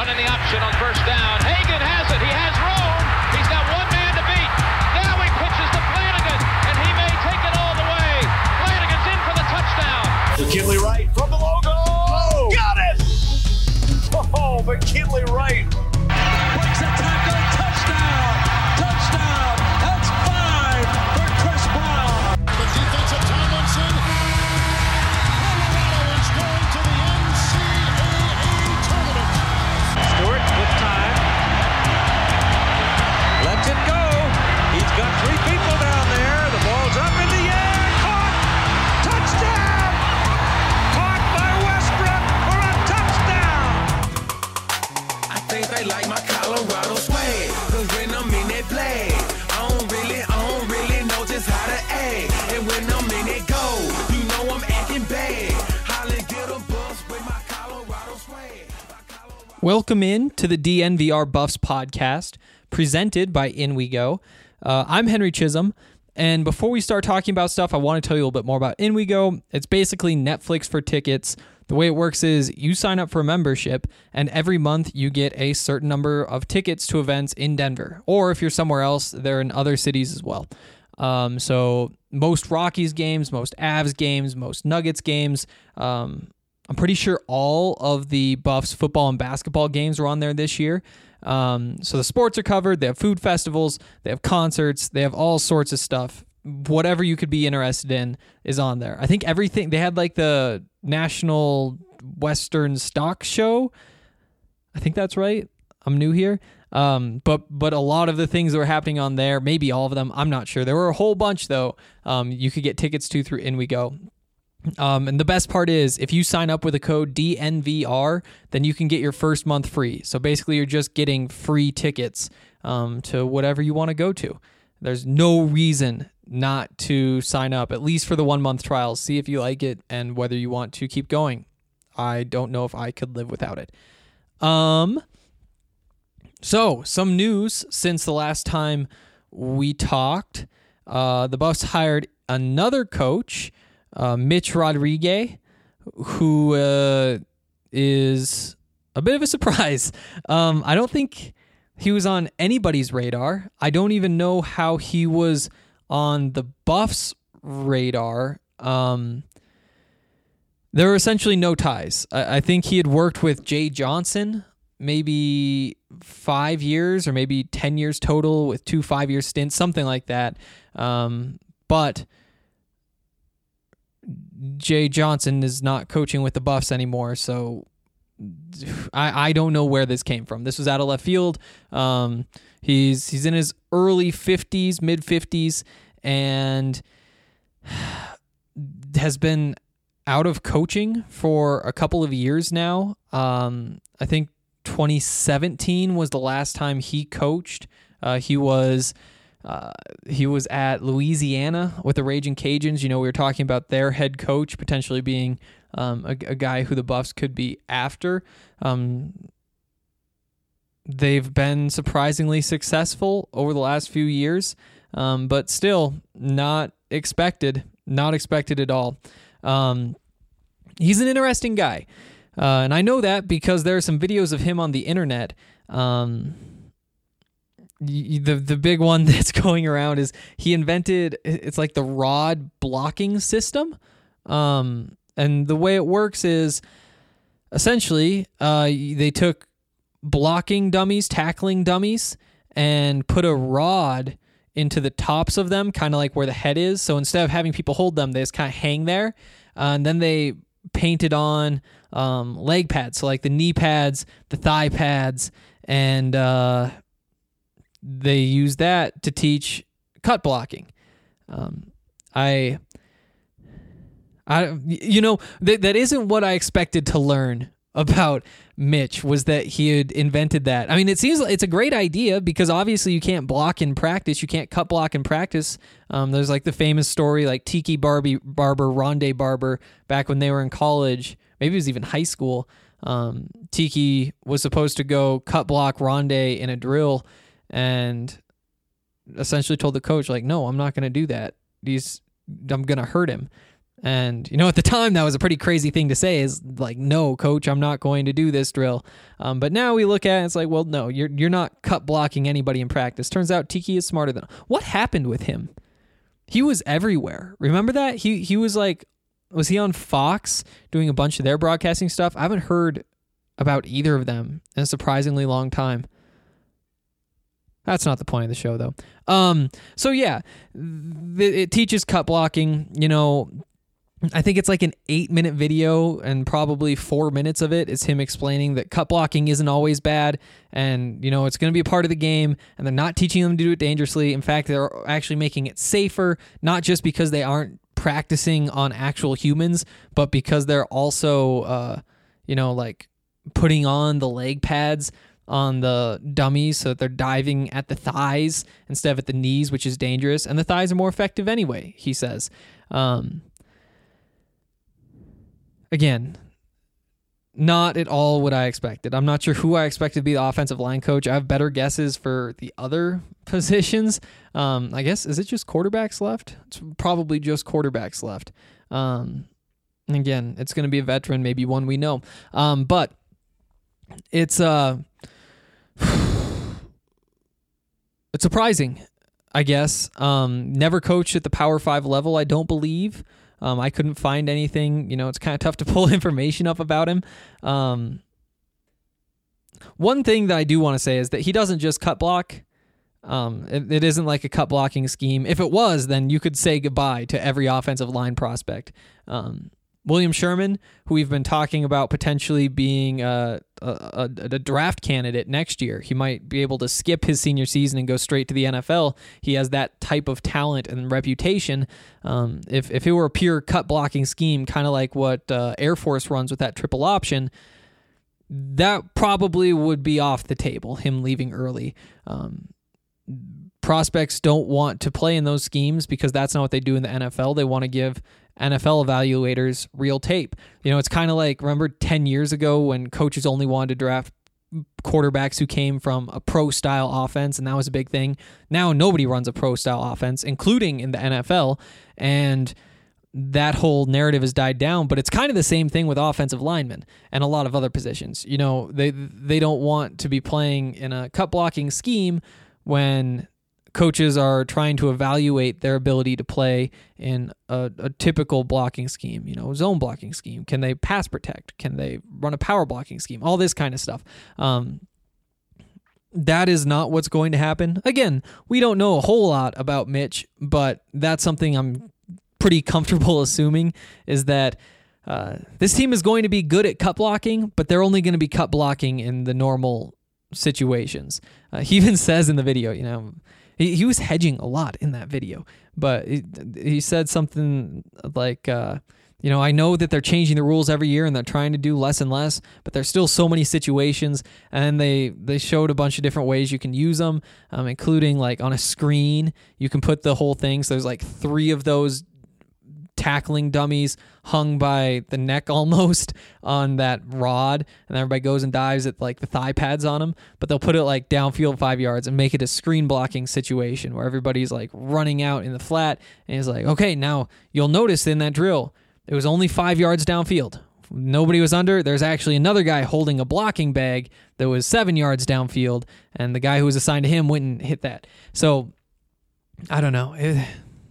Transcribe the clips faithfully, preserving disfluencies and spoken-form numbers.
in the option on first down. Hagan has it. He has room. He's got one man to beat. Now he pitches to Flanagan, and he may take it all the way. Flanagan's in for the touchdown. McKinley Wright from the logo. Oh, got it! Oh, McKinley Wright. Breaks a tackle. Touchdown. Touchdown. That's five for Chris Brown. The defensive Tomlinson. Colorado is going to the N C double A tournament. Stewart with time. Lets it go. He's got three people down there. The ball's up in the air. Caught. Touchdown. Caught by Westbrook for a touchdown. I think they like my Colorado swag. Cause when I'm in that play, I don't really, I don't really know just how to act. And when I'm in it go, you know I'm acting bad. Holly get a bus with my Colorado swag. Welcome in to the D N V R Buffs podcast, presented by In We Go. Uh, I'm Henry Chisholm, and before we start talking about stuff, I want to tell you a little bit more about In We Go. It's basically Netflix for tickets. The way it works is you sign up for a membership, and every month you get a certain number of tickets to events in Denver. Or if you're somewhere else, they're in other cities as well. Um, so most Rockies games, most Avs games, most Nuggets games. Um, I'm pretty sure all of the Buffs football and basketball games are on there this year. Um, so the sports are covered. They have food festivals. They have concerts. They have all sorts of stuff. Whatever you could be interested in is on there. I think everything, they had like the National Western Stock Show. I think that's right. I'm new here. Um, but but a lot of the things that were happening on there, maybe all of them, I'm not sure. There were a whole bunch though. Um, you could get tickets to through In We Go. Um, and the best part is if you sign up with a code D N V R, then you can get your first month free. So basically you're just getting free tickets um, to whatever you want to go to. There's no reason not to sign up, at least for the one month trial. See if you like it and whether you want to keep going. I don't know if I could live without it. Um, so some news since the last time we talked. Uh, the Buffs hired another coach, uh, Mitch Rodriguez, who uh, is a bit of a surprise. Um, I don't think he was on anybody's radar. I don't even know how he was on the Buffs' radar. Um, there were essentially no ties. I, I think he had worked with Jay Johnson maybe five years or maybe ten years total with two five-year stints, something like that. Um, but Jay Johnson is not coaching with the Buffs anymore, so I, I don't know where this came from. This was out of left field. Um, he's he's in his early fifties, mid fifties, and has been out of coaching for a couple of years now. Um, I think twenty seventeen was the last time he coached. Uh, he was uh, he was at Louisiana with the Raging Cajuns. You know, we were talking about their head coach potentially being Um, a, a guy who the Buffs could be after. Um, they've been surprisingly successful over the last few years, um, but still not expected, not expected at all. Um, he's an interesting guy, uh, and I know that because there are some videos of him on the internet. Um, the the big one that's going around is he invented, it's like the rod blocking system. Um, And the way it works is essentially uh, they took blocking dummies, tackling dummies, and put a rod into the tops of them, kind of like where the head is. So instead of having people hold them, they just kind of hang there. Uh, and then they painted on um, leg pads, so like the knee pads, the thigh pads, and uh, they use that to teach cut blocking. Um, I... I, you know, that that isn't what I expected to learn about Mitch, was that he had invented that. I mean, it seems like it's a great idea because obviously you can't block in practice. You can't cut block in practice. Um, there's like the famous story, like Tiki Barbie Barber, Rondé Barber, back when they were in college, maybe it was even high school. Um, Tiki was supposed to go cut block Rondé in a drill and essentially told the coach, like, no, I'm not going to do that. He's, I'm going to hurt him. And, you know, at the time, that was a pretty crazy thing to say is like, no, coach, I'm not going to do this drill. Um, but now we look at it, it's like, well, no, you're you're not cut blocking anybody in practice. Turns out Tiki is smarter than... What happened with him? He was everywhere. Remember that? He he was like, was he on Fox doing a bunch of their broadcasting stuff? I haven't heard about either of them in a surprisingly long time. That's not the point of the show, though. Um, so, yeah, th- it teaches cut blocking, you know... I think it's like an eight minute video and probably four minutes of it is him explaining that cut blocking isn't always bad and, you know, it's going to be a part of the game and they're not teaching them to do it dangerously. In fact, they're actually making it safer, not just because they aren't practicing on actual humans, but because they're also, uh, you know, like putting on the leg pads on the dummies so that they're diving at the thighs instead of at the knees, which is dangerous. And the thighs are more effective anyway, he says. Um, Again, not at all what I expected. I'm not sure who I expected to be the offensive line coach. I have better guesses for the other positions. Um, I guess, is it just quarterbacks left? It's probably just quarterbacks left. Um, and again, it's going to be a veteran, maybe one we know. Um, but it's uh, it's surprising, I guess. Um, never coached at the Power Five level, I don't believe. Um, I couldn't find anything, you know, it's kind of tough to pull information up about him. Um, one thing that I do want to say is that he doesn't just cut block. Um, it, it isn't like a cut blocking scheme. If it was, then you could say goodbye to every offensive line prospect. Um, William Sherman, who we've been talking about potentially being a, a, a draft candidate next year. He might be able to skip his senior season and go straight to the N F L. He has that type of talent and reputation. Um, if, if it were a pure cut blocking scheme, kind of like what uh, Air Force runs with that triple option, that probably would be off the table, him leaving early. Um, prospects don't want to play in those schemes because that's not what they do in the N F L. They want to give N F L evaluators real tape. You know, it's kind of like, remember ten years ago when coaches only wanted to draft quarterbacks who came from a pro-style offense, and that was a big thing. Now nobody runs a pro-style offense, including in the N F L, and that whole narrative has died down, but it's kind of the same thing with offensive linemen and a lot of other positions. You know, they they don't want to be playing in a cut-blocking scheme when coaches are trying to evaluate their ability to play in a, a typical blocking scheme, you know, zone blocking scheme. Can they pass protect? Can they run a power blocking scheme? All this kind of stuff. Um, that is not what's going to happen. Again, we don't know a whole lot about Mitch, but that's something I'm pretty comfortable assuming is that uh, this team is going to be good at cut blocking, but they're only going to be cut blocking in the normal situations. Uh, he even says in the video, you know, He, he was hedging a lot in that video, but he, he said something like, uh, you know, I know that they're changing the rules every year and they're trying to do less and less, but there's still so many situations, and they, they showed a bunch of different ways you can use them, um, including like on a screen, you can put the whole thing. So there's like three of those tackling dummies hung by the neck almost on that rod, and everybody goes and dives at like the thigh pads on them, but they'll put it like downfield five yards and make it a screen blocking situation where everybody's like running out in the flat, and he's like, okay, now you'll notice in that drill it was only five yards downfield, nobody was under. There's actually another guy holding a blocking bag that was seven yards downfield, and the guy who was assigned to him went and hit that. So I don't know. It,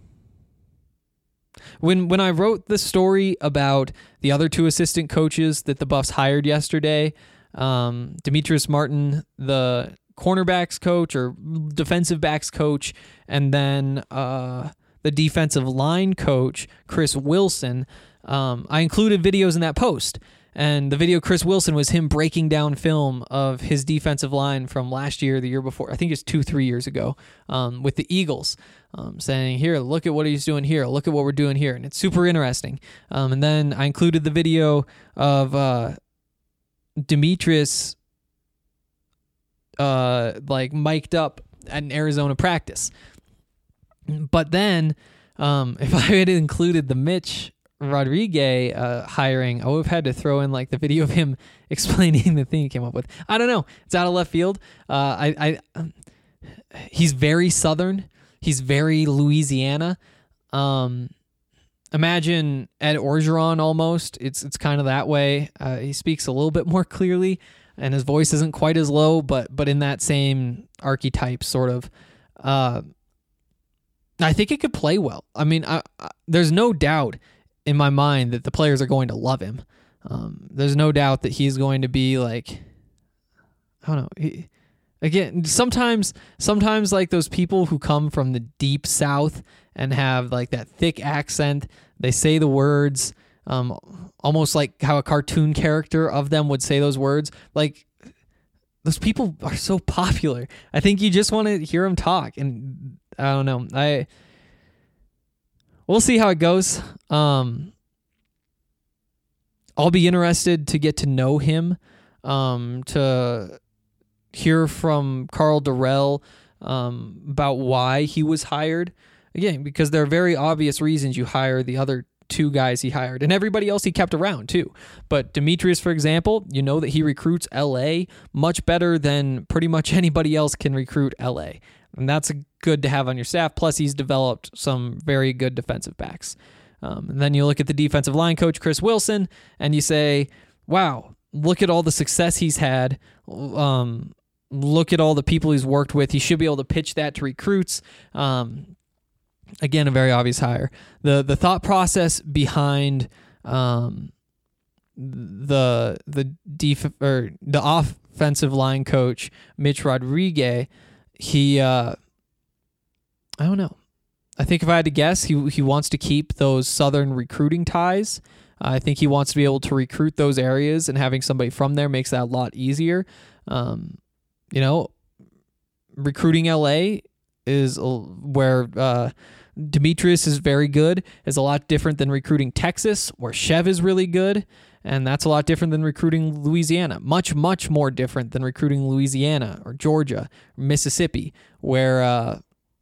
When when I wrote the story about the other two assistant coaches that the Buffs hired yesterday, um, Demetrius Martin, the cornerbacks coach or defensive backs coach, and then uh, the defensive line coach, Chris Wilson, um, I included videos in that post. And the video Chris Wilson was him breaking down film of his defensive line from last year, the year before. I think it's two, three years ago um, with the Eagles, um, saying, here, look at what he's doing here. Look at what we're doing here. And it's super interesting. Um, and then I included the video of uh, Demetrius uh, like mic'd up at an Arizona practice. But then um, if I had included the Mitch Rodriguez uh, hiring, I would have had to throw in like the video of him explaining the thing he came up with. I don't know. It's out of left field. Uh, I, I, um, he's very Southern. He's very Louisiana. Um, imagine Ed Orgeron almost. It's it's kind of that way. Uh, he speaks a little bit more clearly, and his voice isn't quite as low, but but in that same archetype, sort of. Uh, I think it could play well. I mean, I, I, there's no doubt in my mind that the players are going to love him. Um, there's no doubt that he's going to be like, I don't know. He, again, sometimes, sometimes like those people who come from the deep South and have like that thick accent, they say the words, um, almost like how a cartoon character of them would say those words. Like, those people are so popular. I think you just want to hear them talk, and I don't know. I we'll see how it goes. Um, I'll be interested to get to know him, um, to hear from Karl Dorrell um, about why he was hired. Again, because there are very obvious reasons you hire the other two guys he hired, and everybody else he kept around too. But Demetrius, for example, you know that he recruits L A much better than pretty much anybody else can recruit L A. And that's good to have on your staff. Plus, he's developed some very good defensive backs. Um, and then you look at the defensive line coach, Chris Wilson, and you say, wow, look at all the success he's had. Um, look at all the people he's worked with. He should be able to pitch that to recruits. Um, Again, a very obvious hire. The the thought process behind um, the the def- or the offensive line coach, Mitch Rodriguez, he uh, I don't know. I think if I had to guess, he he wants to keep those Southern recruiting ties. I think he wants to be able to recruit those areas, and having somebody from there makes that a lot easier. Um, you know, recruiting L A is where uh, Demetrius is very good, is a lot different than recruiting Texas, where Chev is really good, and that's a lot different than recruiting Louisiana. Much, much more different than recruiting Louisiana or Georgia or Mississippi, where uh,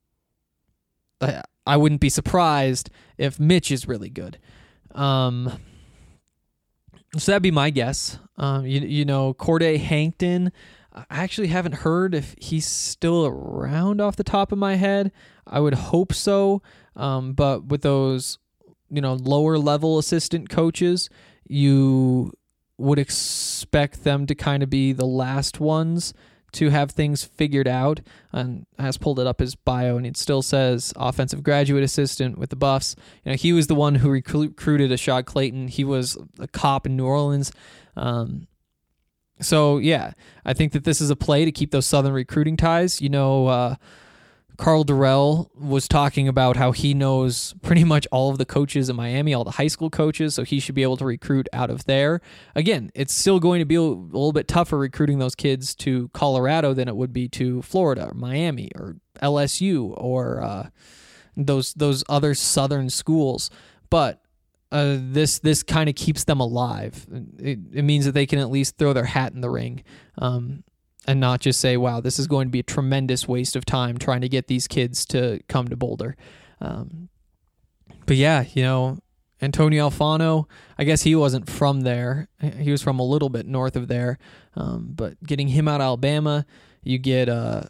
I wouldn't be surprised if Mitch is really good. Um, so that'd be my guess. Um, you, you know, Corday Hankton, I actually haven't heard if he's still around off the top of my head. I would hope so. Um, but with those, you know, lower level assistant coaches, you would expect them to kind of be the last ones to have things figured out. And I has pulled it up his bio, and it still says offensive graduate assistant with the Buffs. You know, he was the one who recruited Ashad Clayton. He was a cop in New Orleans. Um, So, yeah, I think that this is a play to keep those Southern recruiting ties. You know, uh, Karl Dorrell was talking about how he knows pretty much all of the coaches in Miami, all the high school coaches, so he should be able to recruit out of there. Again, it's still going to be a little bit tougher recruiting those kids to Colorado than it would be to Florida or Miami or L S U or uh, those those other Southern schools. But Uh, this this kind of keeps them alive. It, it means that they can at least throw their hat in the ring, um, and not just say, wow, this is going to be a tremendous waste of time trying to get these kids to come to Boulder. Um, but yeah, you know, Antonio Alfano, I guess he wasn't from there. He was from a little bit north of there. Um, but getting him out of Alabama, you get uh,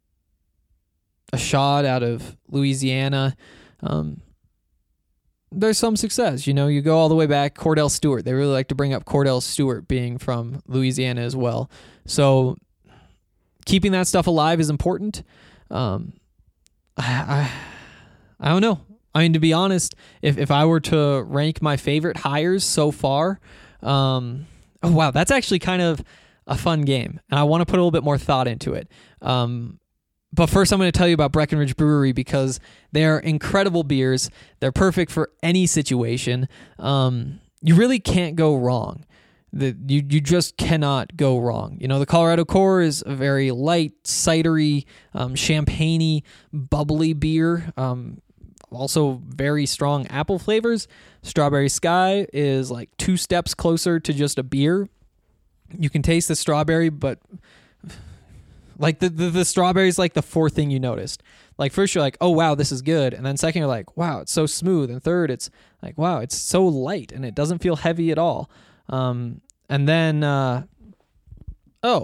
a shot out of Louisiana. Um, There's some success. You know, you go all the way back, Cordell Stewart. They really like to bring up Cordell Stewart being from Louisiana as well. So keeping that stuff alive is important. Um, I, I, I don't know. I mean, to be honest, if, if I were to rank my favorite hires so far, um, oh, wow, that's actually kind of a fun game. And I want to put a little bit more thought into it. Um, But first, I'm going to tell you about Breckenridge Brewery because they're incredible beers. They're perfect for any situation. Um, you really can't go wrong. The, you you just cannot go wrong. You know, the Colorado Core is a very light, cidery, um, champagne-y, bubbly beer. Um, also very strong apple flavors. Strawberry Sky is like two steps closer to just a beer. You can taste the strawberry, but like the, the, the strawberry is like the fourth thing you noticed. Like first you're like, oh wow, this is good. And then second you're like, wow, it's so smooth. And third, it's like, wow, it's so light and it doesn't feel heavy at all. Um, and then, uh, oh,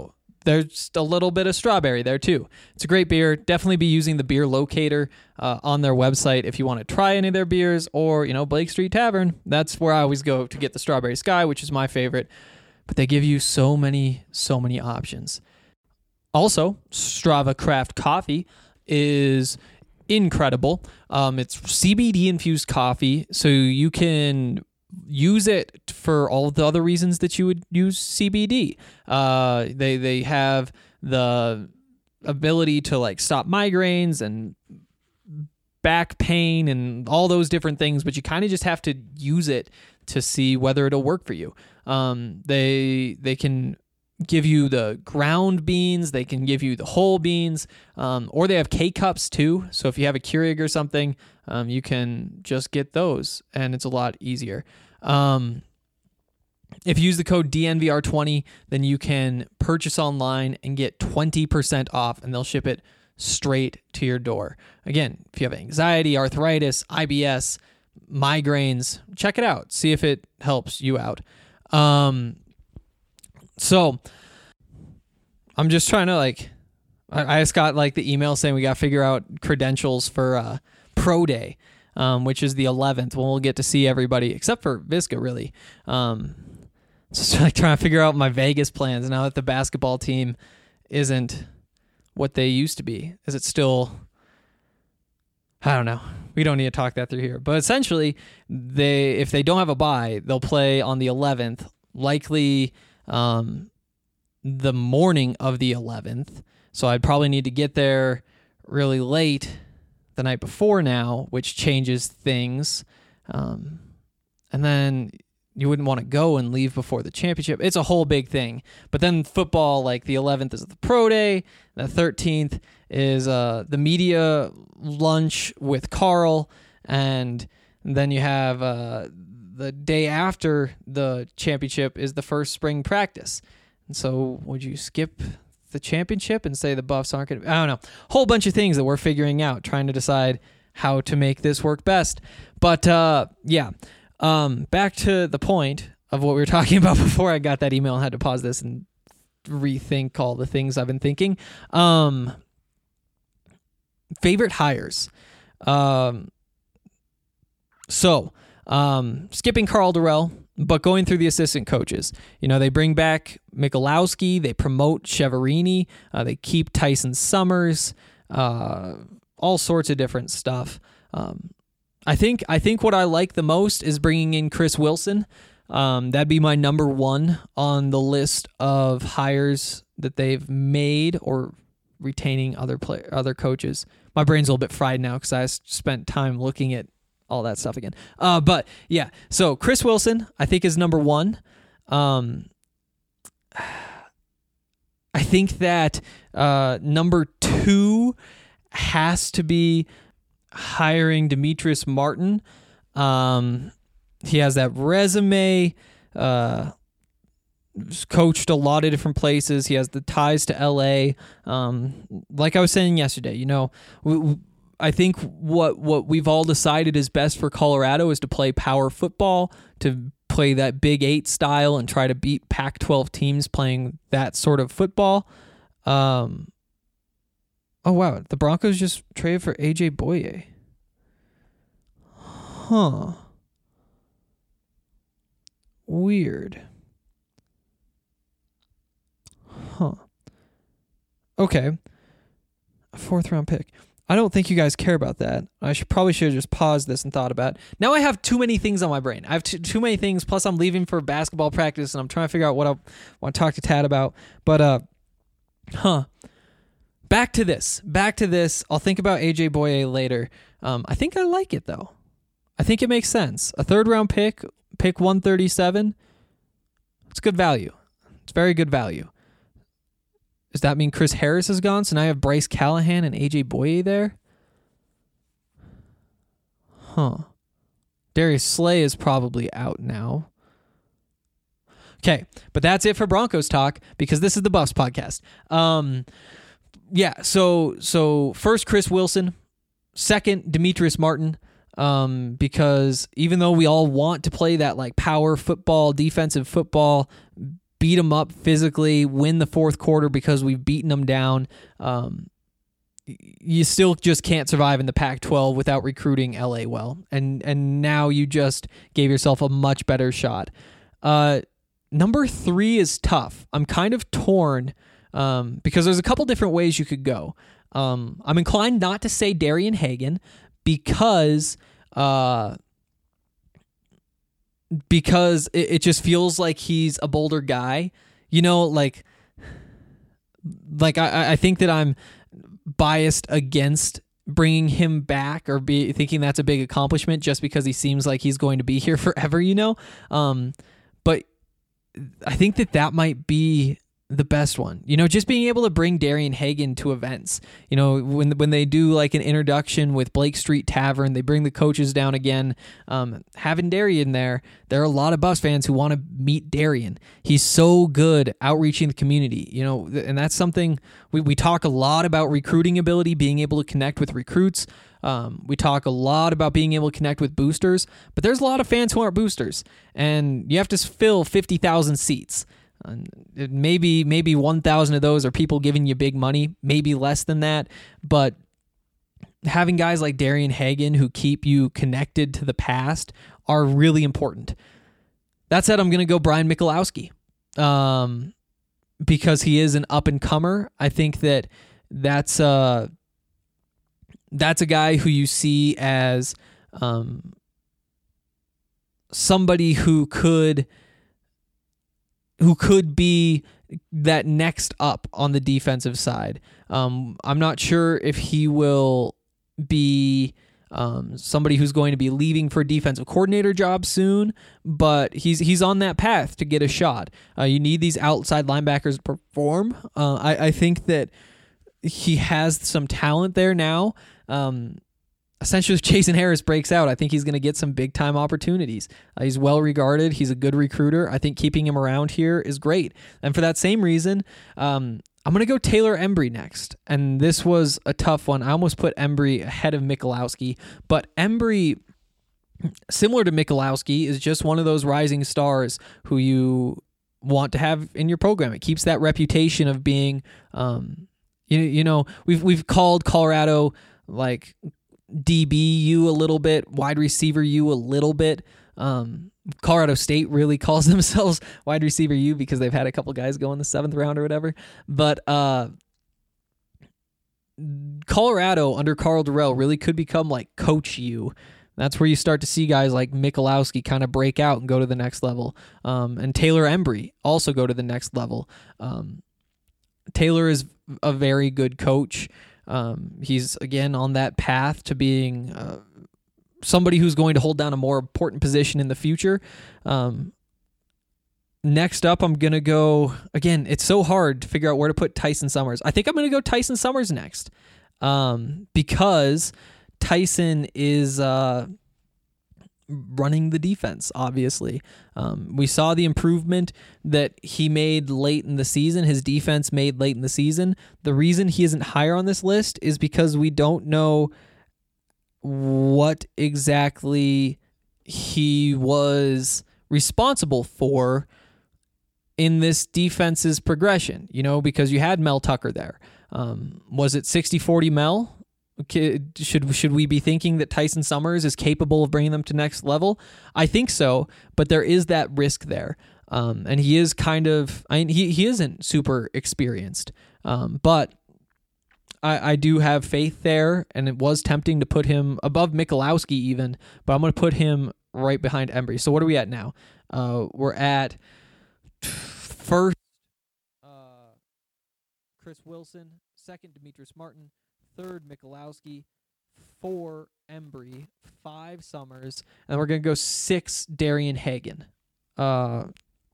there's a little bit of strawberry there too. It's a great beer. Definitely be using the beer locator uh, on their website if you want to try any of their beers, or, you know, Blake Street Tavern. That's where I always go to get the Strawberry Sky, which is my favorite. But they give you so many, so many options. Also, Strava Craft Coffee is incredible. Um, it's C B D infused coffee, so you can use it for all the other reasons that you would use C B D. Uh, they they have the ability to like stop migraines and back pain and all those different things, but you kind of just have to use it to see whether it'll work for you. Um, they they can give you the ground beans, they can give you the whole beans, um, or they have K-Cups too. So if you have a Keurig or something, um, you can just get those, and it's a lot easier. Um, if you use the code D N V R twenty, then you can purchase online and get twenty percent off, and they'll ship it straight to your door. Again, if you have anxiety, arthritis, I B S, migraines, check it out. See if it helps you out. Um, so I'm just trying to like, I, I just got like the email saying we got to figure out credentials for uh, Pro Day, um, which is the eleventh, when we'll get to see everybody except for Visca, really. Um, just like trying to figure out my Vegas plans now that the basketball team isn't what they used to be. Is it still, I don't know. We don't need to talk that through here. But essentially, they if they don't have a bye, they'll play on the eleventh, likely um, the morning of the eleventh. So I'd probably need to get there really late the night before now, which changes things. Um, and then you wouldn't want to go and leave before the championship. It's a whole big thing. But then football, like the eleventh is the pro day. The thirteenth is uh, the media lunch with Carl. And then you have uh, the day after the championship is the first spring practice. And so would you skip the championship and say the Buffs aren't going to... I don't know. Whole bunch of things that we're figuring out, trying to decide how to make this work best. But uh, yeah. Um, back to the point of what we were talking about before I got that email and had to pause this and rethink all the things I've been thinking. Um, favorite hires. Um, so, um, skipping Carl Durrell, but going through the assistant coaches. You know, they bring back Michalowski, they promote Cheverini, uh, they keep Tyson Summers, uh, all sorts of different stuff. Um, I think I think what I like the most is bringing in Chris Wilson. Um, that'd be my number one on the list of hires that they've made, or retaining other play, other coaches. My brain's a little bit fried now because I spent time looking at all that stuff again. Uh, but yeah, so Chris Wilson I think is number one. Um, I think that uh, number two has to be hiring Demetrius Martin. Um, he has that resume, uh, coached a lot of different places. He has the ties to L A. Um, like I was saying yesterday, you know, we, we, I think what, what we've all decided is best for Colorado is to play power football, to play that Big Eight style and try to beat Pac twelve teams playing that sort of football. Um, Oh, wow. The Broncos just traded for A J Boye. Huh. Weird. Huh. Okay. A fourth round pick. I don't think you guys care about that. I should probably should have just paused this and thought about it. Now I have too many things on my brain. I have too, too many things. Plus I'm leaving for basketball practice and I'm trying to figure out what I want to talk to Tad about. But, uh, huh. Back to this. Back to this. I'll think about A J Boye later. Um, I think I like it, though. I think it makes sense. A third-round pick, pick one thirty-seven, it's good value. It's very good value. Does that mean Chris Harris is gone, so now I have Bryce Callahan and A J Boye there? Huh. Darius Slay is probably out now. Okay, but that's it for Broncos talk, because this is the Buffs podcast. Um... Yeah, so so first Chris Wilson, second Demetrius Martin, um, because even though we all want to play that like power football, defensive football, beat them up physically, win the fourth quarter because we've beaten them down. Um, you still just can't survive in the Pac twelve without recruiting L A well. And and now you just gave yourself a much better shot. Uh, number three is tough. I'm kind of torn um, because there's a couple different ways you could go. Um, I'm inclined not to say Darian Hagan because uh, because it, it just feels like he's a Boulder guy. You know, like like I, I think that I'm biased against bringing him back or be thinking that's a big accomplishment just because he seems like he's going to be here forever, you know? Um, but I think that that might be the best one, you know, just being able to bring Darian Hagan to events, you know, when, when they do like an introduction with Blake Street Tavern, they bring the coaches down again, um, having Darian there, there are a lot of Buffs fans who want to meet Darian. He's so good outreaching the community, you know, and that's something we, we talk a lot about recruiting ability, being able to connect with recruits. Um, we talk a lot about being able to connect with boosters, but there's a lot of fans who aren't boosters, and you have to fill fifty thousand seats. Uh, maybe maybe one thousand of those are people giving you big money, maybe less than that, but having guys like Darian Hagan who keep you connected to the past are really important. That said, I'm going to go Brian Michalowski um, because he is an up-and-comer. I think that that's uh, that's a guy who you see as um, somebody who could who could be that next up on the defensive side. Um, I'm not sure if he will be um, somebody who's going to be leaving for a defensive coordinator job soon, but he's he's on that path to get a shot. Uh, you need these outside linebackers to perform. Uh, I, I think that he has some talent there now. Um, essentially, if Jason Harris breaks out, I think he's going to get some big-time opportunities. Uh, he's well-regarded. He's a good recruiter. I think keeping him around here is great. And for that same reason, um, I'm going to go Taylor Embry next. And this was a tough one. I almost put Embry ahead of Michalowski, but Embry, similar to Michalowski, is just one of those rising stars who you want to have in your program. It keeps that reputation of being, um, you, you know, we've we've called Colorado like D B U a little bit, wide receiver U a little bit. Um, Colorado State really calls themselves wide receiver U because they've had a couple guys go in the seventh round or whatever. But uh, Colorado under Carl Durrell really could become like Coach U. That's where you start to see guys like Michalowski kind of break out and go to the next level. Um, and Taylor Embry also go to the next level. Um, Taylor is a very good coach. Um, he's, again, on that path to being uh, somebody who's going to hold down a more important position in the future. Um, next up, I'm going to go, again, it's so hard to figure out where to put Tyson Summers. I think I'm going to go Tyson Summers next um, because Tyson is uh, running the defense, obviously. Um, we saw the improvement that he made late in the season, his defense made late in the season. The reason he isn't higher on this list is because we don't know what exactly he was responsible for in this defense's progression, you know, because you had Mel Tucker there. Um, was it sixty forty Mel? Should should we be thinking that Tyson Summers is capable of bringing them to next level? I think so, but there is that risk there. Um, and he is kind of, I mean, he, he isn't super experienced, um, but I, I do have faith there, and it was tempting to put him above Michalowski even, but I'm going to put him right behind Embry. So what are we at now? Uh, we're at first uh, Chris Wilson, second Demetrius Martin, third Michalowski, four Embry, five Summers, and we're going to go six Darian Hagan. Uh,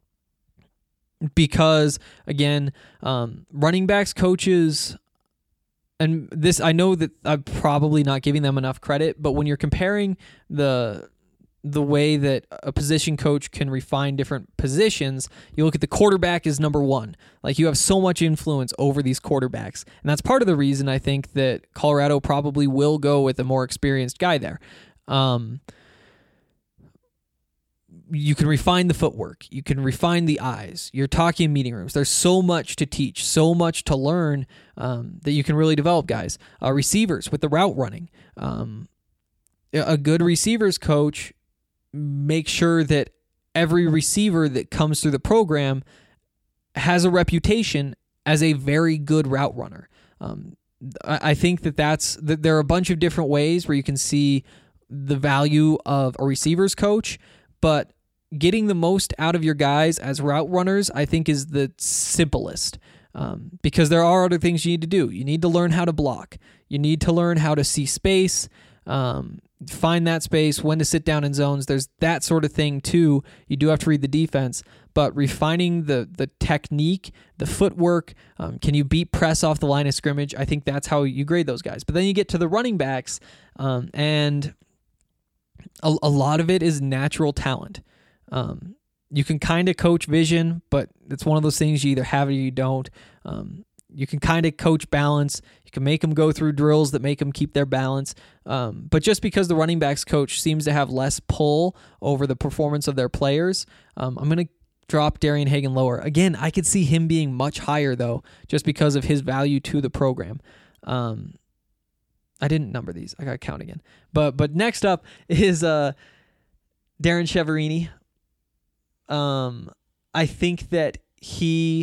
because, again, um, running backs coaches, and this, I know that I'm probably not giving them enough credit, but when you're comparing the the way that a position coach can refine different positions, you look at the quarterback as number one. Like, you have so much influence over these quarterbacks. And that's part of the reason I think that Colorado probably will go with a more experienced guy there. Um, you can refine the footwork. You can refine the eyes. You're talking in meeting rooms. There's so much to teach, so much to learn um, that you can really develop guys. Uh, receivers with the route running. Um, a good receivers coach makes sure that every receiver that comes through the program has a reputation as a very good route runner. Um, I, I think that that's that there are a bunch of different ways where you can see the value of a receivers coach, but getting the most out of your guys as route runners, I think, is the simplest, um, because there are other things you need to do. You need to learn how to block. You need to learn how to see space, um, find that space, when to sit down in zones. There's that sort of thing too. You do have to read the defense, but refining the the technique, the footwork, um, can you beat press off the line of scrimmage? I think that's how you grade those guys. But then you get to the running backs, um, and a, a lot of it is natural talent. Um, you can kind of coach vision, but it's one of those things you either have it or you don't. Um, you can kind of coach balance. You can make them go through drills that make them keep their balance. Um, but just because the running backs coach seems to have less pull over the performance of their players, um, I'm going to drop Darian Hagan lower. Again, I could see him being much higher, though, just because of his value to the program. Um, I didn't number these. I got to count again. But but next up is uh, Darren Chiaverini. Um, I think that he,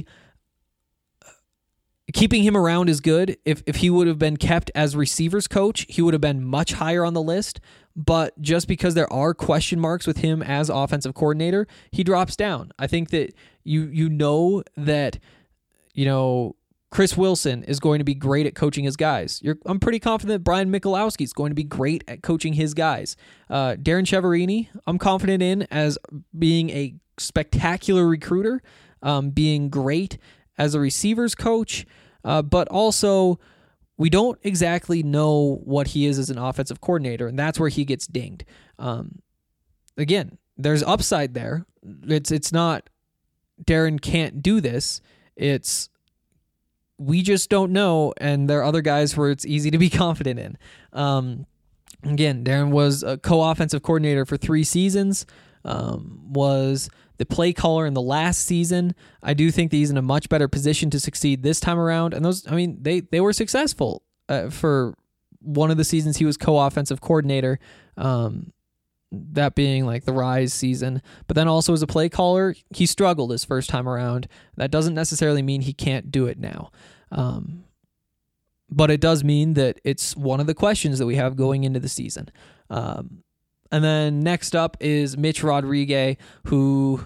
keeping him around is good. If if he would have been kept as receivers coach, he would have been much higher on the list. But just because there are question marks with him as offensive coordinator, he drops down. I think that you you know that, you know, Chris Wilson is going to be great at coaching his guys. You're, I'm pretty confident that Brian Michalowski is going to be great at coaching his guys. Uh, Darren Chiaverini, I'm confident in as being a spectacular recruiter, um, being great as a receivers coach, uh, but also we don't exactly know what he is as an offensive coordinator, and that's where he gets dinged. Um, again, there's upside there. It's it's not Darren can't do this. It's we just don't know, and there are other guys where it's easy to be confident in. Um, again, Darren was a co-offensive coordinator for three seasons, um, was the play caller in the last season. I do think that he's in a much better position to succeed this time around. And those, I mean, they, they were successful uh, for one of the seasons he was co-offensive coordinator, um, that being like the Rise season. But then also as a play caller, he struggled his first time around. That doesn't necessarily mean he can't do it now. Um, but it does mean that it's one of the questions that we have going into the season. Um, And then next up is Mitch Rodriguez, who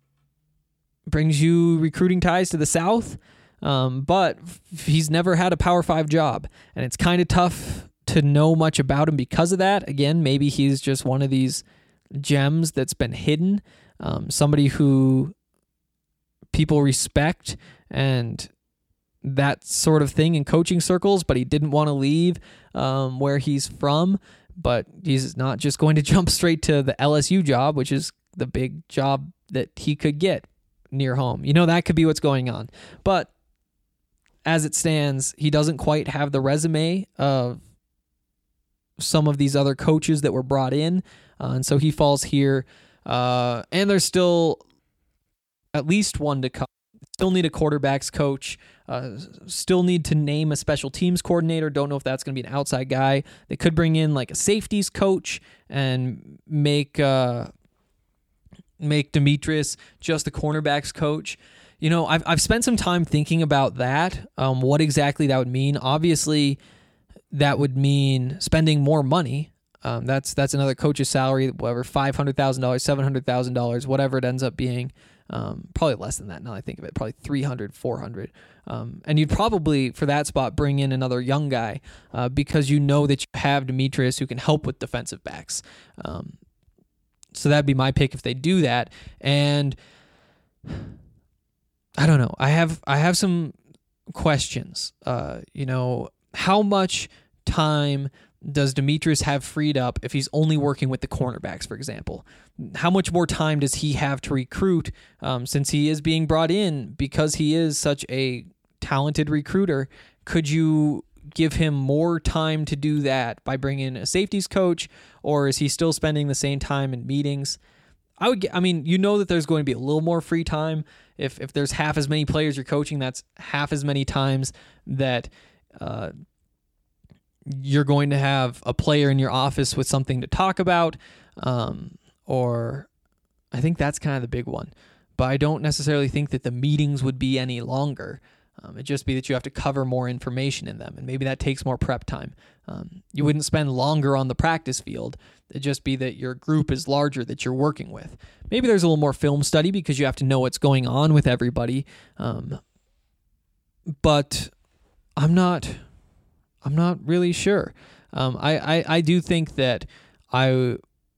brings you recruiting ties to the South, um, but he's never had a Power Five job, and it's kind of tough to know much about him because of that. Again, maybe he's just one of these gems that's been hidden, um, somebody who people respect and that sort of thing in coaching circles, but he didn't want to leave um, where he's from. But he's not just going to jump straight to the L S U job, which is the big job that he could get near home. You know, that could be what's going on. But as it stands, he doesn't quite have the resume of some of these other coaches that were brought in. Uh, and so he falls here. Uh, and there's still at least one to come. Still need a quarterbacks coach. Uh, still need to name a special teams coordinator. Don't know if that's going to be an outside guy. They could bring in like a safeties coach and make uh, make Demetrius just the cornerbacks coach. You know, I've I've spent some time thinking about that. Um, what exactly that would mean? Obviously, that would mean spending more money. Um, that's that's another coach's salary, whatever, five hundred thousand dollars, seven hundred thousand dollars, whatever it ends up being. Um, probably less than that now that I think of it, probably three hundred, four hundred. Um, and you'd probably, for that spot, bring in another young guy uh, because you know that you have Demetrius who can help with defensive backs. Um, so that'd be my pick if they do that. And I don't know. I have I have some questions. Uh, you know, how much time does Demetrius have freed up if he's only working with the cornerbacks, for example? How much more time does he have to recruit um, since he is being brought in because he is such a talented recruiter? Could you give him more time to do that by bringing in a safeties coach, or is he still spending the same time in meetings? I would get, I mean, you know that there's going to be a little more free time. If if there's half as many players you're coaching, that's half as many times that uh, you're going to have a player in your office with something to talk about. Um, or I think that's kind of the big one. But I don't necessarily think that the meetings would be any longer. Um, it'd just be that you have to cover more information in them, and maybe that takes more prep time. Um, you wouldn't spend longer on the practice field. It'd just be that your group is larger that you're working with. Maybe there's a little more film study because you have to know what's going on with everybody. Um, but I'm not, I'm not really sure. Um, I, I, I do think that I,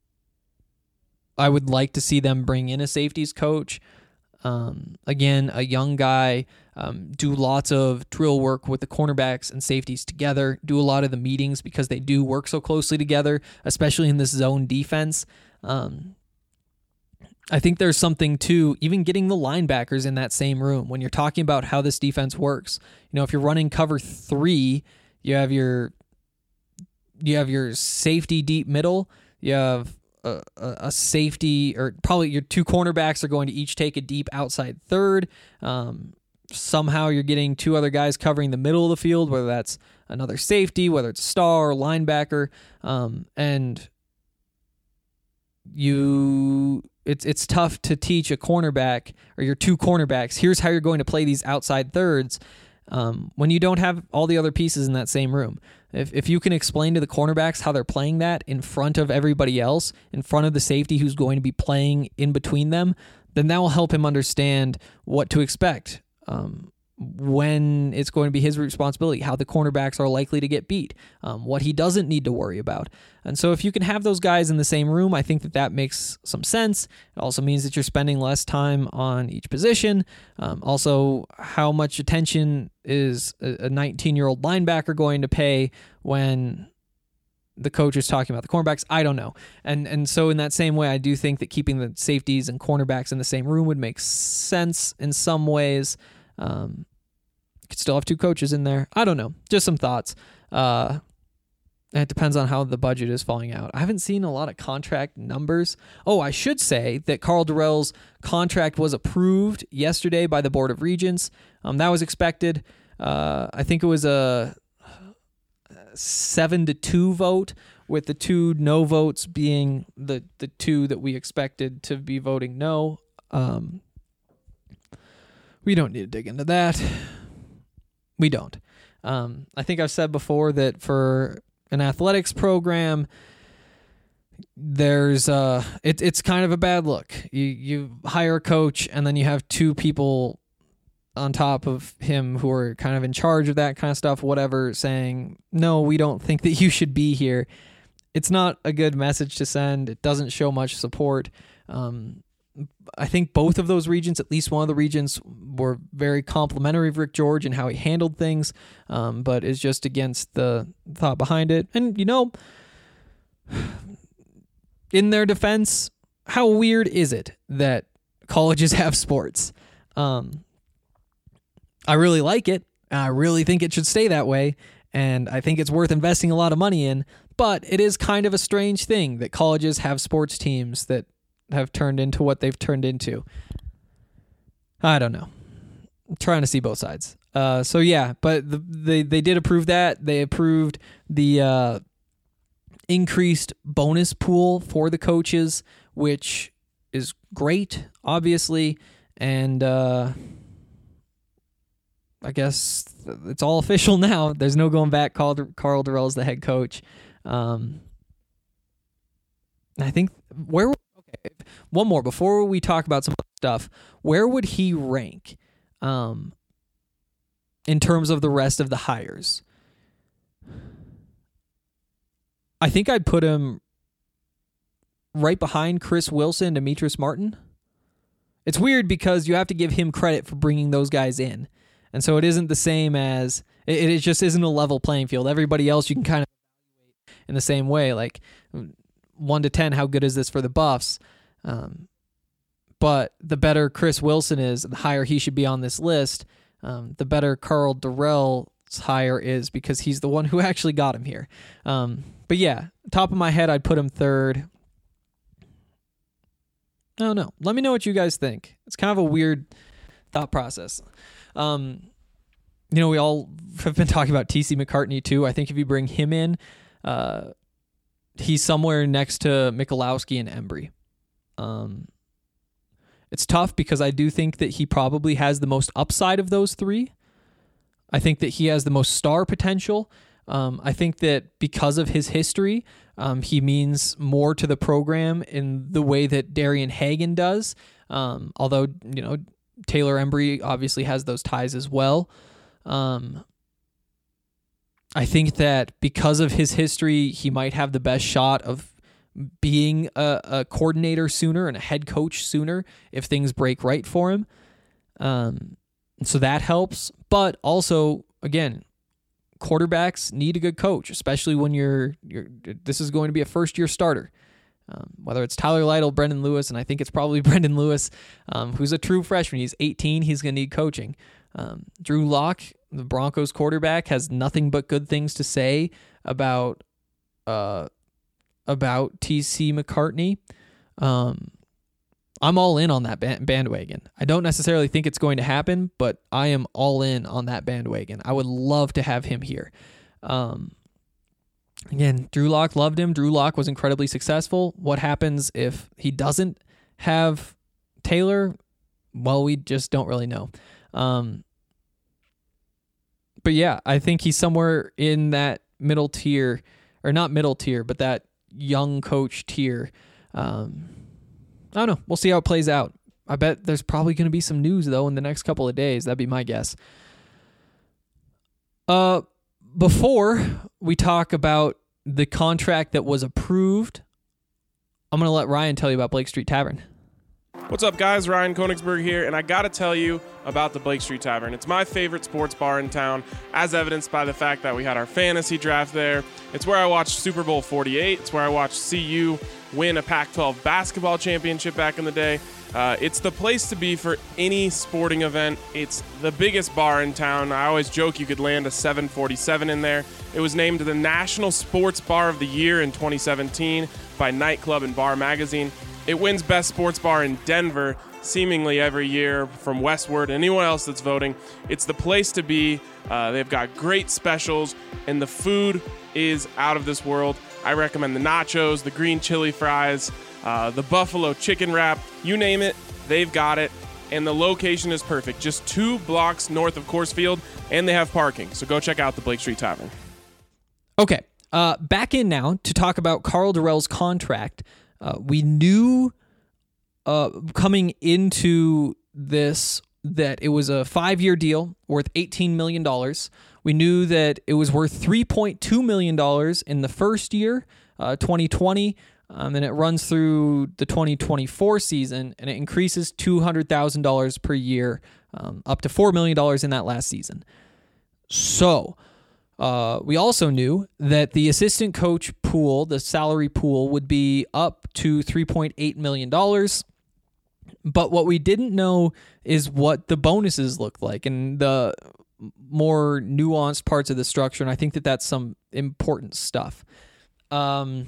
I would like to see them bring in a safeties coach. Um, again, a young guy, um, do lots of drill work with the cornerbacks and safeties together, do a lot of the meetings because they do work so closely together, especially in this zone defense. Um, I think there's something to even getting the linebackers in that same room when you're talking about how this defense works. You know, if you're running cover three, you have your, you have your safety deep middle, you have A, a safety, or probably your two cornerbacks are going to each take a deep outside third. Um, somehow you're getting two other guys covering the middle of the field, whether that's another safety, whether it's star or linebacker. Um, and you, it's it's tough to teach a cornerback or your two cornerbacks, here's how you're going to play these outside thirds um, when you don't have all the other pieces in that same room. If if you can explain to the cornerbacks how they're playing that in front of everybody else, in front of the safety who's going to be playing in between them, then that will help him understand what to expect, um, when it's going to be his responsibility, how the cornerbacks are likely to get beat, um, what he doesn't need to worry about. And so if you can have those guys in the same room, I think that that makes some sense. It also means that you're spending less time on each position. Um, also, how much attention is a nineteen-year-old linebacker going to pay when the coach is talking about the cornerbacks? I don't know. And and so in that same way, I do think that keeping the safeties and cornerbacks in the same room would make sense in some ways. Um, you could still have two coaches in there. I don't know. Just some thoughts. Uh, it depends on how the budget is falling out. I haven't seen a lot of contract numbers. Oh, I should say that Karl Dorrell's contract was approved yesterday by the Board of Regents. Um, that was expected. Uh, I think it was a seven to two vote, with the two no votes being the, the two that we expected to be voting no. Um, we don't need to dig into that. We don't. Um, I think I've said before that for an athletics program, there's uh, it, it's kind of a bad look. You you hire a coach and then you have two people on top of him who are kind of in charge of that kind of stuff, whatever, saying, no, we don't think that you should be here. It's not a good message to send. It doesn't show much support. Um, I think both of those regions, at least one of the regions, were very complimentary of Rick George and how he handled things, um, but is just against the thought behind it. And, you know, in their defense, how weird is it that colleges have sports? Um, I really like it. I really think it should stay that way, and I think it's worth investing a lot of money in, but it is kind of a strange thing that colleges have sports teams that have turned into what they've turned into. I don't know. I'm trying to see both sides. Uh, so yeah, but the, they they did approve that. They approved the uh, increased bonus pool for the coaches, which is great, obviously, and uh, I guess it's all official now. There's no going back. Karl, Karl Dorrell is the head coach. Um, I think where. Okay, one more before we talk about some stuff. Where would he rank, um, in terms of the rest of the hires? I think I'd put him right behind Chris Wilson, Demetrius Martin. It's weird because you have to give him credit for bringing those guys in. And so it isn't the same as, it, it just isn't a level playing field. Everybody else you can kind of evaluate in the same way. Like one to ten, how good is this for the Buffs? Um, but the better Chris Wilson is, the higher he should be on this list. Um, the better Karl Dorrell's hire is because he's the one who actually got him here. Um, but yeah, top of my head, I'd put him third. I don't know. Let me know what you guys think. It's kind of a weird thought process. Um, you know, we all have been talking about T C McCartney too. I think if you bring him in, uh, he's somewhere next to Michalowski and Embry. Um, it's tough because I do think that he probably has the most upside of those three. I think that he has the most star potential. Um, I think that because of his history, um, he means more to the program in the way that Darian Hagan does. Um, although, you know, Taylor Embry obviously has those ties as well. Um, I think that because of his history, he might have the best shot of being a, a coordinator sooner and a head coach sooner if things break right for him. Um, so that helps. But also, again, quarterbacks need a good coach, especially when you're, you're this is going to be a first-year starter. Um, whether it's Tyler Lytle, Brendan Lewis, and I think it's probably Brendan Lewis, um, who's a true freshman. He's eighteen. He's going to need coaching. Um, Drew Lock, the Broncos quarterback, has nothing but good things to say about uh, about T C McCartney. Um, I'm all in on that bandwagon. I don't necessarily think it's going to happen, but I am all in on that bandwagon. I would love to have him here. Um, again, Drew Lock loved him. Drew Lock was incredibly successful. What happens if he doesn't have Taylor? Well, we just don't really know. Um, but yeah, I think he's somewhere in that middle tier, or not middle tier, but that young coach tier. Um, I don't know. We'll see how it plays out. I bet there's probably going to be some news, though, in the next couple of days. That'd be my guess. Uh, before we talk about the contract that was approved, I'm going to let Ryan tell you about Blake Street Tavern. What's up, guys? Ryan Koenigsberg here, and I got to tell you about the Blake Street Tavern. It's my favorite sports bar in town, as evidenced by the fact that we had our fantasy draft there. It's where I watched Super Bowl forty-eight. It's where I watched C U win a Pac twelve basketball championship back in the day. Uh, it's the place to be for any sporting event. It's the biggest bar in town. I always joke you could land a seven forty-seven in there. It was named the National Sports Bar of the Year in twenty seventeen by Nightclub and Bar Magazine. It wins Best Sports Bar in Denver seemingly every year from Westward. Anyone else that's voting, it's the place to be. Uh, they've got great specials, and the food is out of this world. I recommend the nachos, the green chili fries, uh, the buffalo chicken wrap. You name it, they've got it. And the location is perfect. Just two blocks north of Coors Field, and they have parking. So go check out the Blake Street Tavern. Okay, uh, back in now to talk about Karl Dorrell's contract. Uh, we knew uh, coming into this that it was a five-year deal worth eighteen million dollars. We knew that it was worth three point two million dollars in the first year, uh, twenty twenty, um, and it runs through the twenty twenty-four season, and it increases two hundred thousand dollars per year, um, up to four million dollars in that last season. So uh, we also knew that the assistant coach pool, the salary pool, would be up to three point eight million dollars. But what we didn't know is what the bonuses looked like and the more nuanced parts of the structure. And I think that that's some important stuff. Um,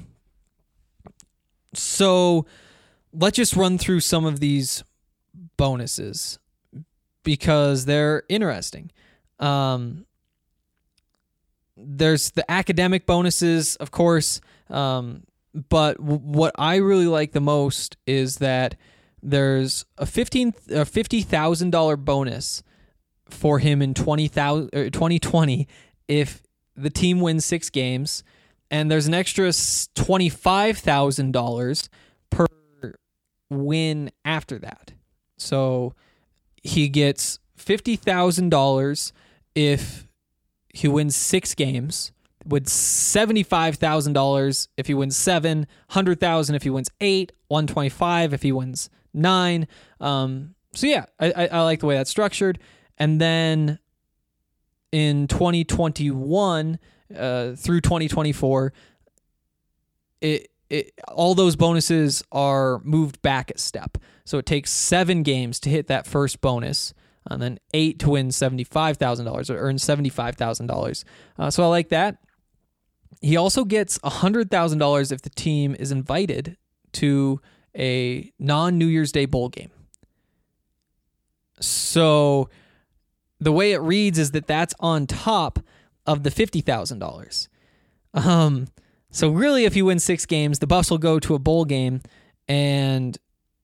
so let's just run through some of these bonuses because they're interesting. Um, there's the academic bonuses, of course. Um, but w- what I really like the most is that there's a fifteen a fifty thousand dollar bonus for him in twenty twenty if the team wins six games, and there's an extra twenty-five thousand dollars per win after that. So he gets fifty thousand dollars if he wins six games, with seventy-five thousand dollars if he wins seven, one hundred thousand dollars if he wins eight, one hundred twenty-five thousand dollars if he wins nine. Um, so yeah, I, I, I like the way that's structured. And then in twenty twenty-one uh, through twenty twenty-four, it it all those bonuses are moved back a step. So it takes seven games to hit that first bonus, and then eight to win seventy-five thousand dollars or earn seventy-five thousand dollars. Uh, so I like that. He also gets one hundred thousand dollars if the team is invited to a non-New Year's Day bowl game. So the way it reads is that that's on top of the fifty thousand dollars. Um, so really, if he wins six games, the Buffs will go to a bowl game, and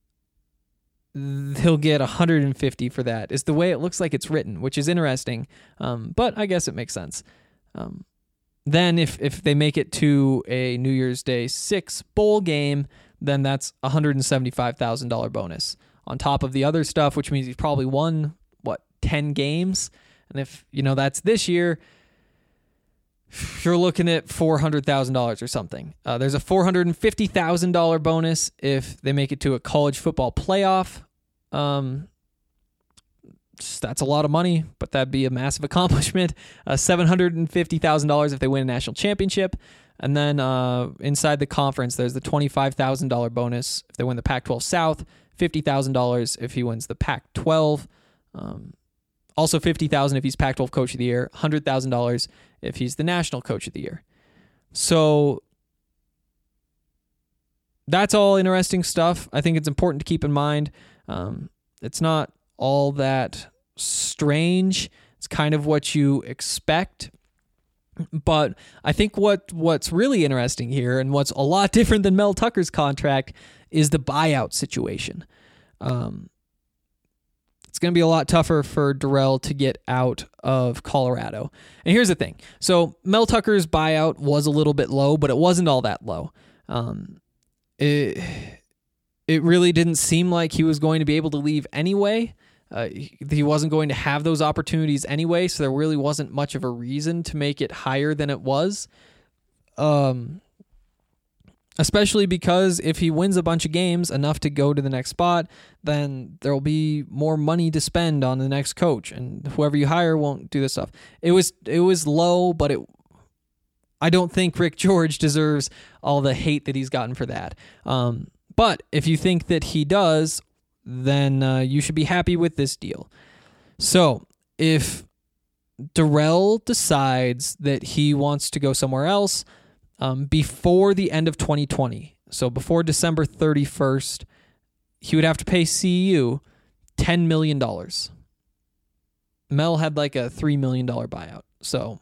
he'll get one hundred fifty for that, is the way it looks like it's written, which is interesting. Um, but I guess it makes sense. Um, then if, if they make it to a New Year's Day six bowl game, then that's a one hundred seventy-five thousand dollars bonus on top of the other stuff, which means he's probably won, what, ten games? And if, you know, that's this year, you're looking at four hundred thousand dollars or something. Uh, there's a four hundred fifty thousand dollars bonus if they make it to a college football playoff. Um, that's a lot of money, but that'd be a massive accomplishment. Uh, seven hundred fifty thousand dollars if they win a national championship. And then uh, inside the conference, there's the twenty-five thousand dollars bonus if they win the Pac twelve South, fifty thousand dollars if he wins the Pac twelve. Um, also fifty thousand dollars if he's Pac twelve Coach of the Year, one hundred thousand dollars if he's the National Coach of the Year. So that's all interesting stuff. I think it's important to keep in mind. Um, it's not all that strange. It's kind of what you expect. But I think what what's really interesting here, and what's a lot different than Mel Tucker's contract, is the buyout situation. Um, it's going to be a lot tougher for Darrell to get out of Colorado. And here's the thing. So Mel Tucker's buyout was a little bit low, but it wasn't all that low. Um, it, it really didn't seem like he was going to be able to leave anyway. Uh, he, he wasn't going to have those opportunities anyway, so there really wasn't much of a reason to make it higher than it was. Um, especially because if he wins a bunch of games, enough to go to the next spot, then there will be more money to spend on the next coach, and whoever you hire won't do this stuff. It was it was low, but it I don't think Rick George deserves all the hate that he's gotten for that. Um, but if you think that he does, then uh, you should be happy with this deal. So if Darrell decides that he wants to go somewhere else um, before the end of twenty twenty, so before December thirty-first, he would have to pay C U ten million dollars. Mel had like a three million dollars buyout, so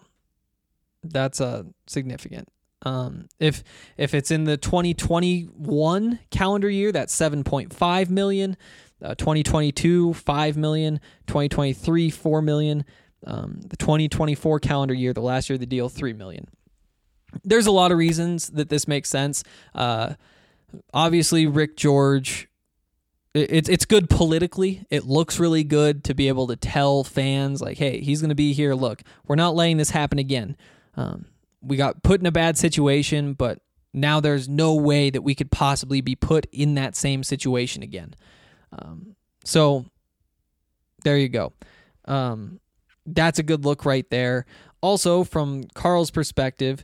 that's uh, significant. Um, if if it's in the twenty twenty-one calendar year, that's seven point five million dollars. Uh, twenty twenty-two, five million dollars. twenty twenty-three, four million dollars. Um, the twenty twenty-four calendar year, the last year of the deal, three million dollars. There's a lot of reasons that this makes sense. Uh, obviously, Rick George, it, it's it's good politically. It looks really good to be able to tell fans, like, hey, he's going to be here. Look, we're not letting this happen again. Um, we got put in a bad situation, but now there's no way that we could possibly be put in that same situation again. Um, so there you go. Um, that's a good look right there. Also, from Carl's perspective,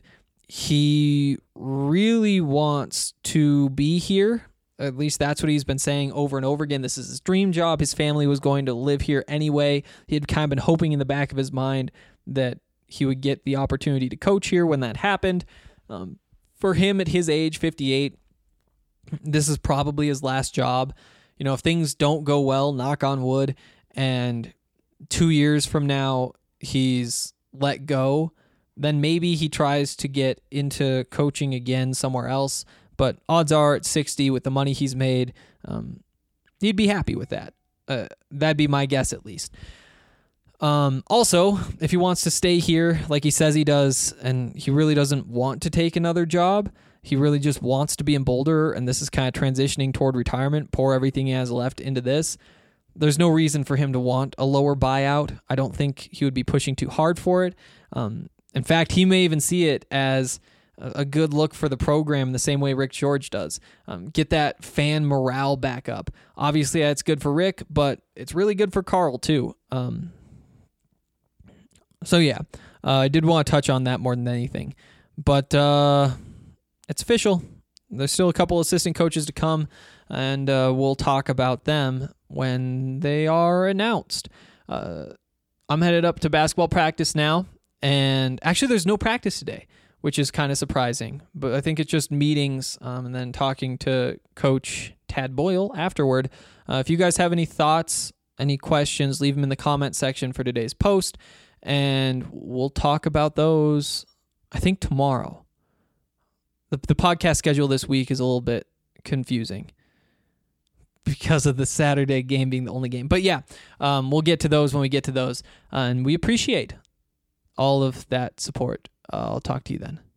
he really wants to be here. At least that's what he's been saying over and over again. This is his dream job. His family was going to live here anyway. He had kind of been hoping in the back of his mind that he would get the opportunity to coach here when that happened. Um, for him at his age, fifty-eight, this is probably his last job. You know, if things don't go well, knock on wood, and two years from now he's let go, then maybe he tries to get into coaching again somewhere else. But odds are at sixty, with the money he's made, um, he'd be happy with that. Uh, that'd be my guess, at least. Um, also, if he wants to stay here, like he says he does, and he really doesn't want to take another job, he really just wants to be in Boulder, and this is kind of transitioning toward retirement, pour everything he has left into this, there's no reason for him to want a lower buyout. I don't think he would be pushing too hard for it. Um, in fact, he may even see it as a good look for the program the same way Rick George does. Um, get that fan morale back up. Obviously, that's good for Rick, but it's really good for Carl, too. Um, So, yeah, uh, I did want to touch on that more than anything. But uh, it's official. There's still a couple assistant coaches to come, and uh, we'll talk about them when they are announced. Uh, I'm headed up to basketball practice now, and actually there's no practice today, which is kind of surprising. But I think it's just meetings um, and then talking to Coach Tad Boyle afterward. Uh, if you guys have any thoughts, any questions, leave them in the comment section for today's post, and we'll talk about those, I think, tomorrow. The, the podcast schedule this week is a little bit confusing because of the Saturday game being the only game. But yeah, um, we'll get to those when we get to those, uh, and we appreciate all of that support. Uh, I'll talk to you then.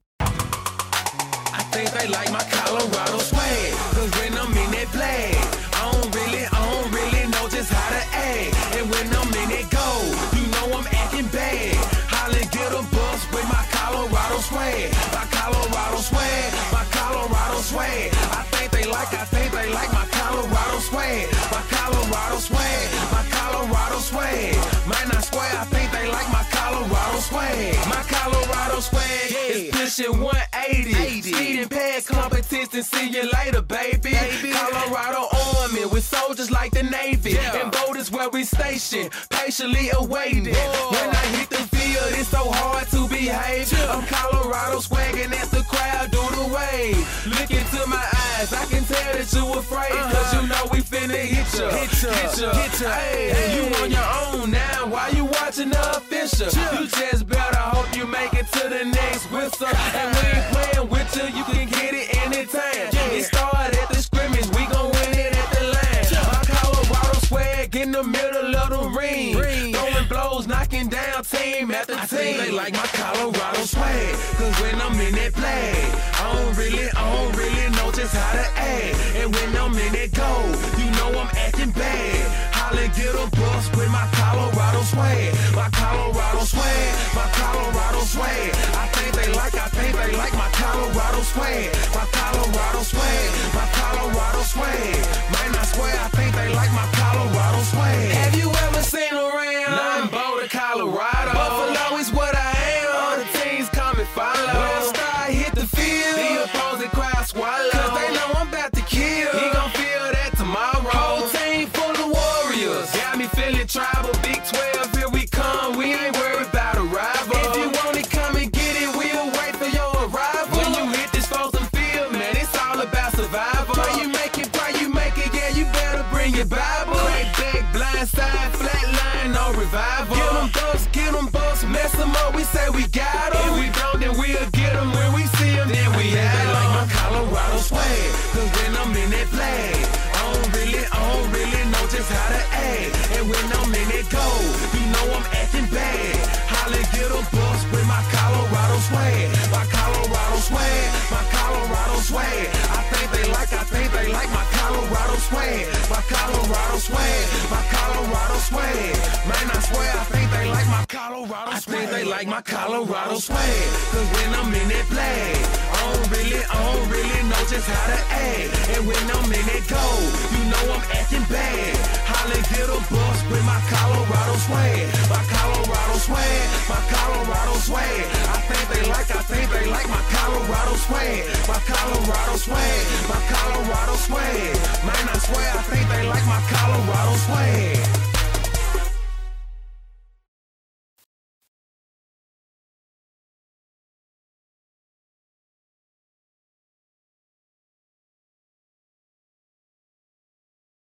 I think they like my Colorado swag, cause when I'm in that flag, I don't really, I don't really know just how to act. And when I'm in that goal, you know I'm acting bad. Holla, get a bus with my Colorado swag, my Colorado swag, my Colorado swag. I think they like, I think they like my Colorado swag, my Colorado swag, my Colorado swag. Man, I swear, I think they like my Colorado swag, my Colorado swag is pushing one eighty. Speeding past competition, see you later, baby. baby. Colorado Army with soldiers like the Navy. Yeah. And voters where we stationed, patiently awaiting. Whoa. When I hit the field, it's so hard to behave. Yeah. I'm Colorado swagging as the crowd do the wave. Look into my eyes, I can tell that you afraid. Uh-huh. Cause you know we finna hit ya, hit ya, hit ya. Hit ya. Hey, hey. You on your own now, why you watching the official? Yeah. You just better hope you make it to the next whistle. And we ain't playing with you, you can get it anytime. Yeah. It started at the scrimmage, we gon' win it at the line. Yeah. My Colorado swag in the middle of the ring. ring. Throwing blows, knocking down team after I team. They like my Colorado swag, cause when I'm in that flag, I don't really, I don't really know just how to act. And when I'm in that goal, you know I'm acting bad. Holla, get a bus with my Colorado swag, my Colorado swag, my Colorado swag. I think they like, I think they like my Colorado swag, my Colorado swag, my Colorado swag. Man, I swear, I think they like my Colorado swag. Have you ever seen around? Nothing Boulder, Colorado. Buffalo is what I am. All the teams come and follow. When I start hit the field, the opposing crowd swallow. Cause they know I'm about to kill. He gon' feel that tomorrow. Whole team full of warriors. Got me feeling tribal. Big twelve, here we come. We ain't worried about a rival. If you want it, come and get it. We'll wait for your arrival. When you hit this frozen field, man, it's all about survival. Pray you make it, pray you make it. Yeah, you better bring your Bible. Crack back, blind side, flat line, no revival. Get them ducks, get them bucks, mess them up. We say we got them. If we don't, then we'll get them. When we see them, then we have them. They like my Colorado swag, cause when I'm in that flag, I don't really, I don't really know just how to act. And when I'm in that goal, you know I'm acting bad. Holla, get a bus with my Colorado swag, my Colorado swag, my Colorado swag. I think they like, I think they like my Colorado swag, my Colorado swag, my Colorado swag. Man, I swear, I think they like my Colorado swag. I think they like my Colorado swag, cause when I'm in that flag, I don't really, I don't really know just how to act. And when I'm in that goal, you know I'm acting bad. Holla, get a bus with my Colorado swag, my Colorado swag, my Colorado swag. I think they like, I think they like my Colorado swag, my Colorado swag, my Colorado swag. Man, I swear, I think they like my Colorado swag.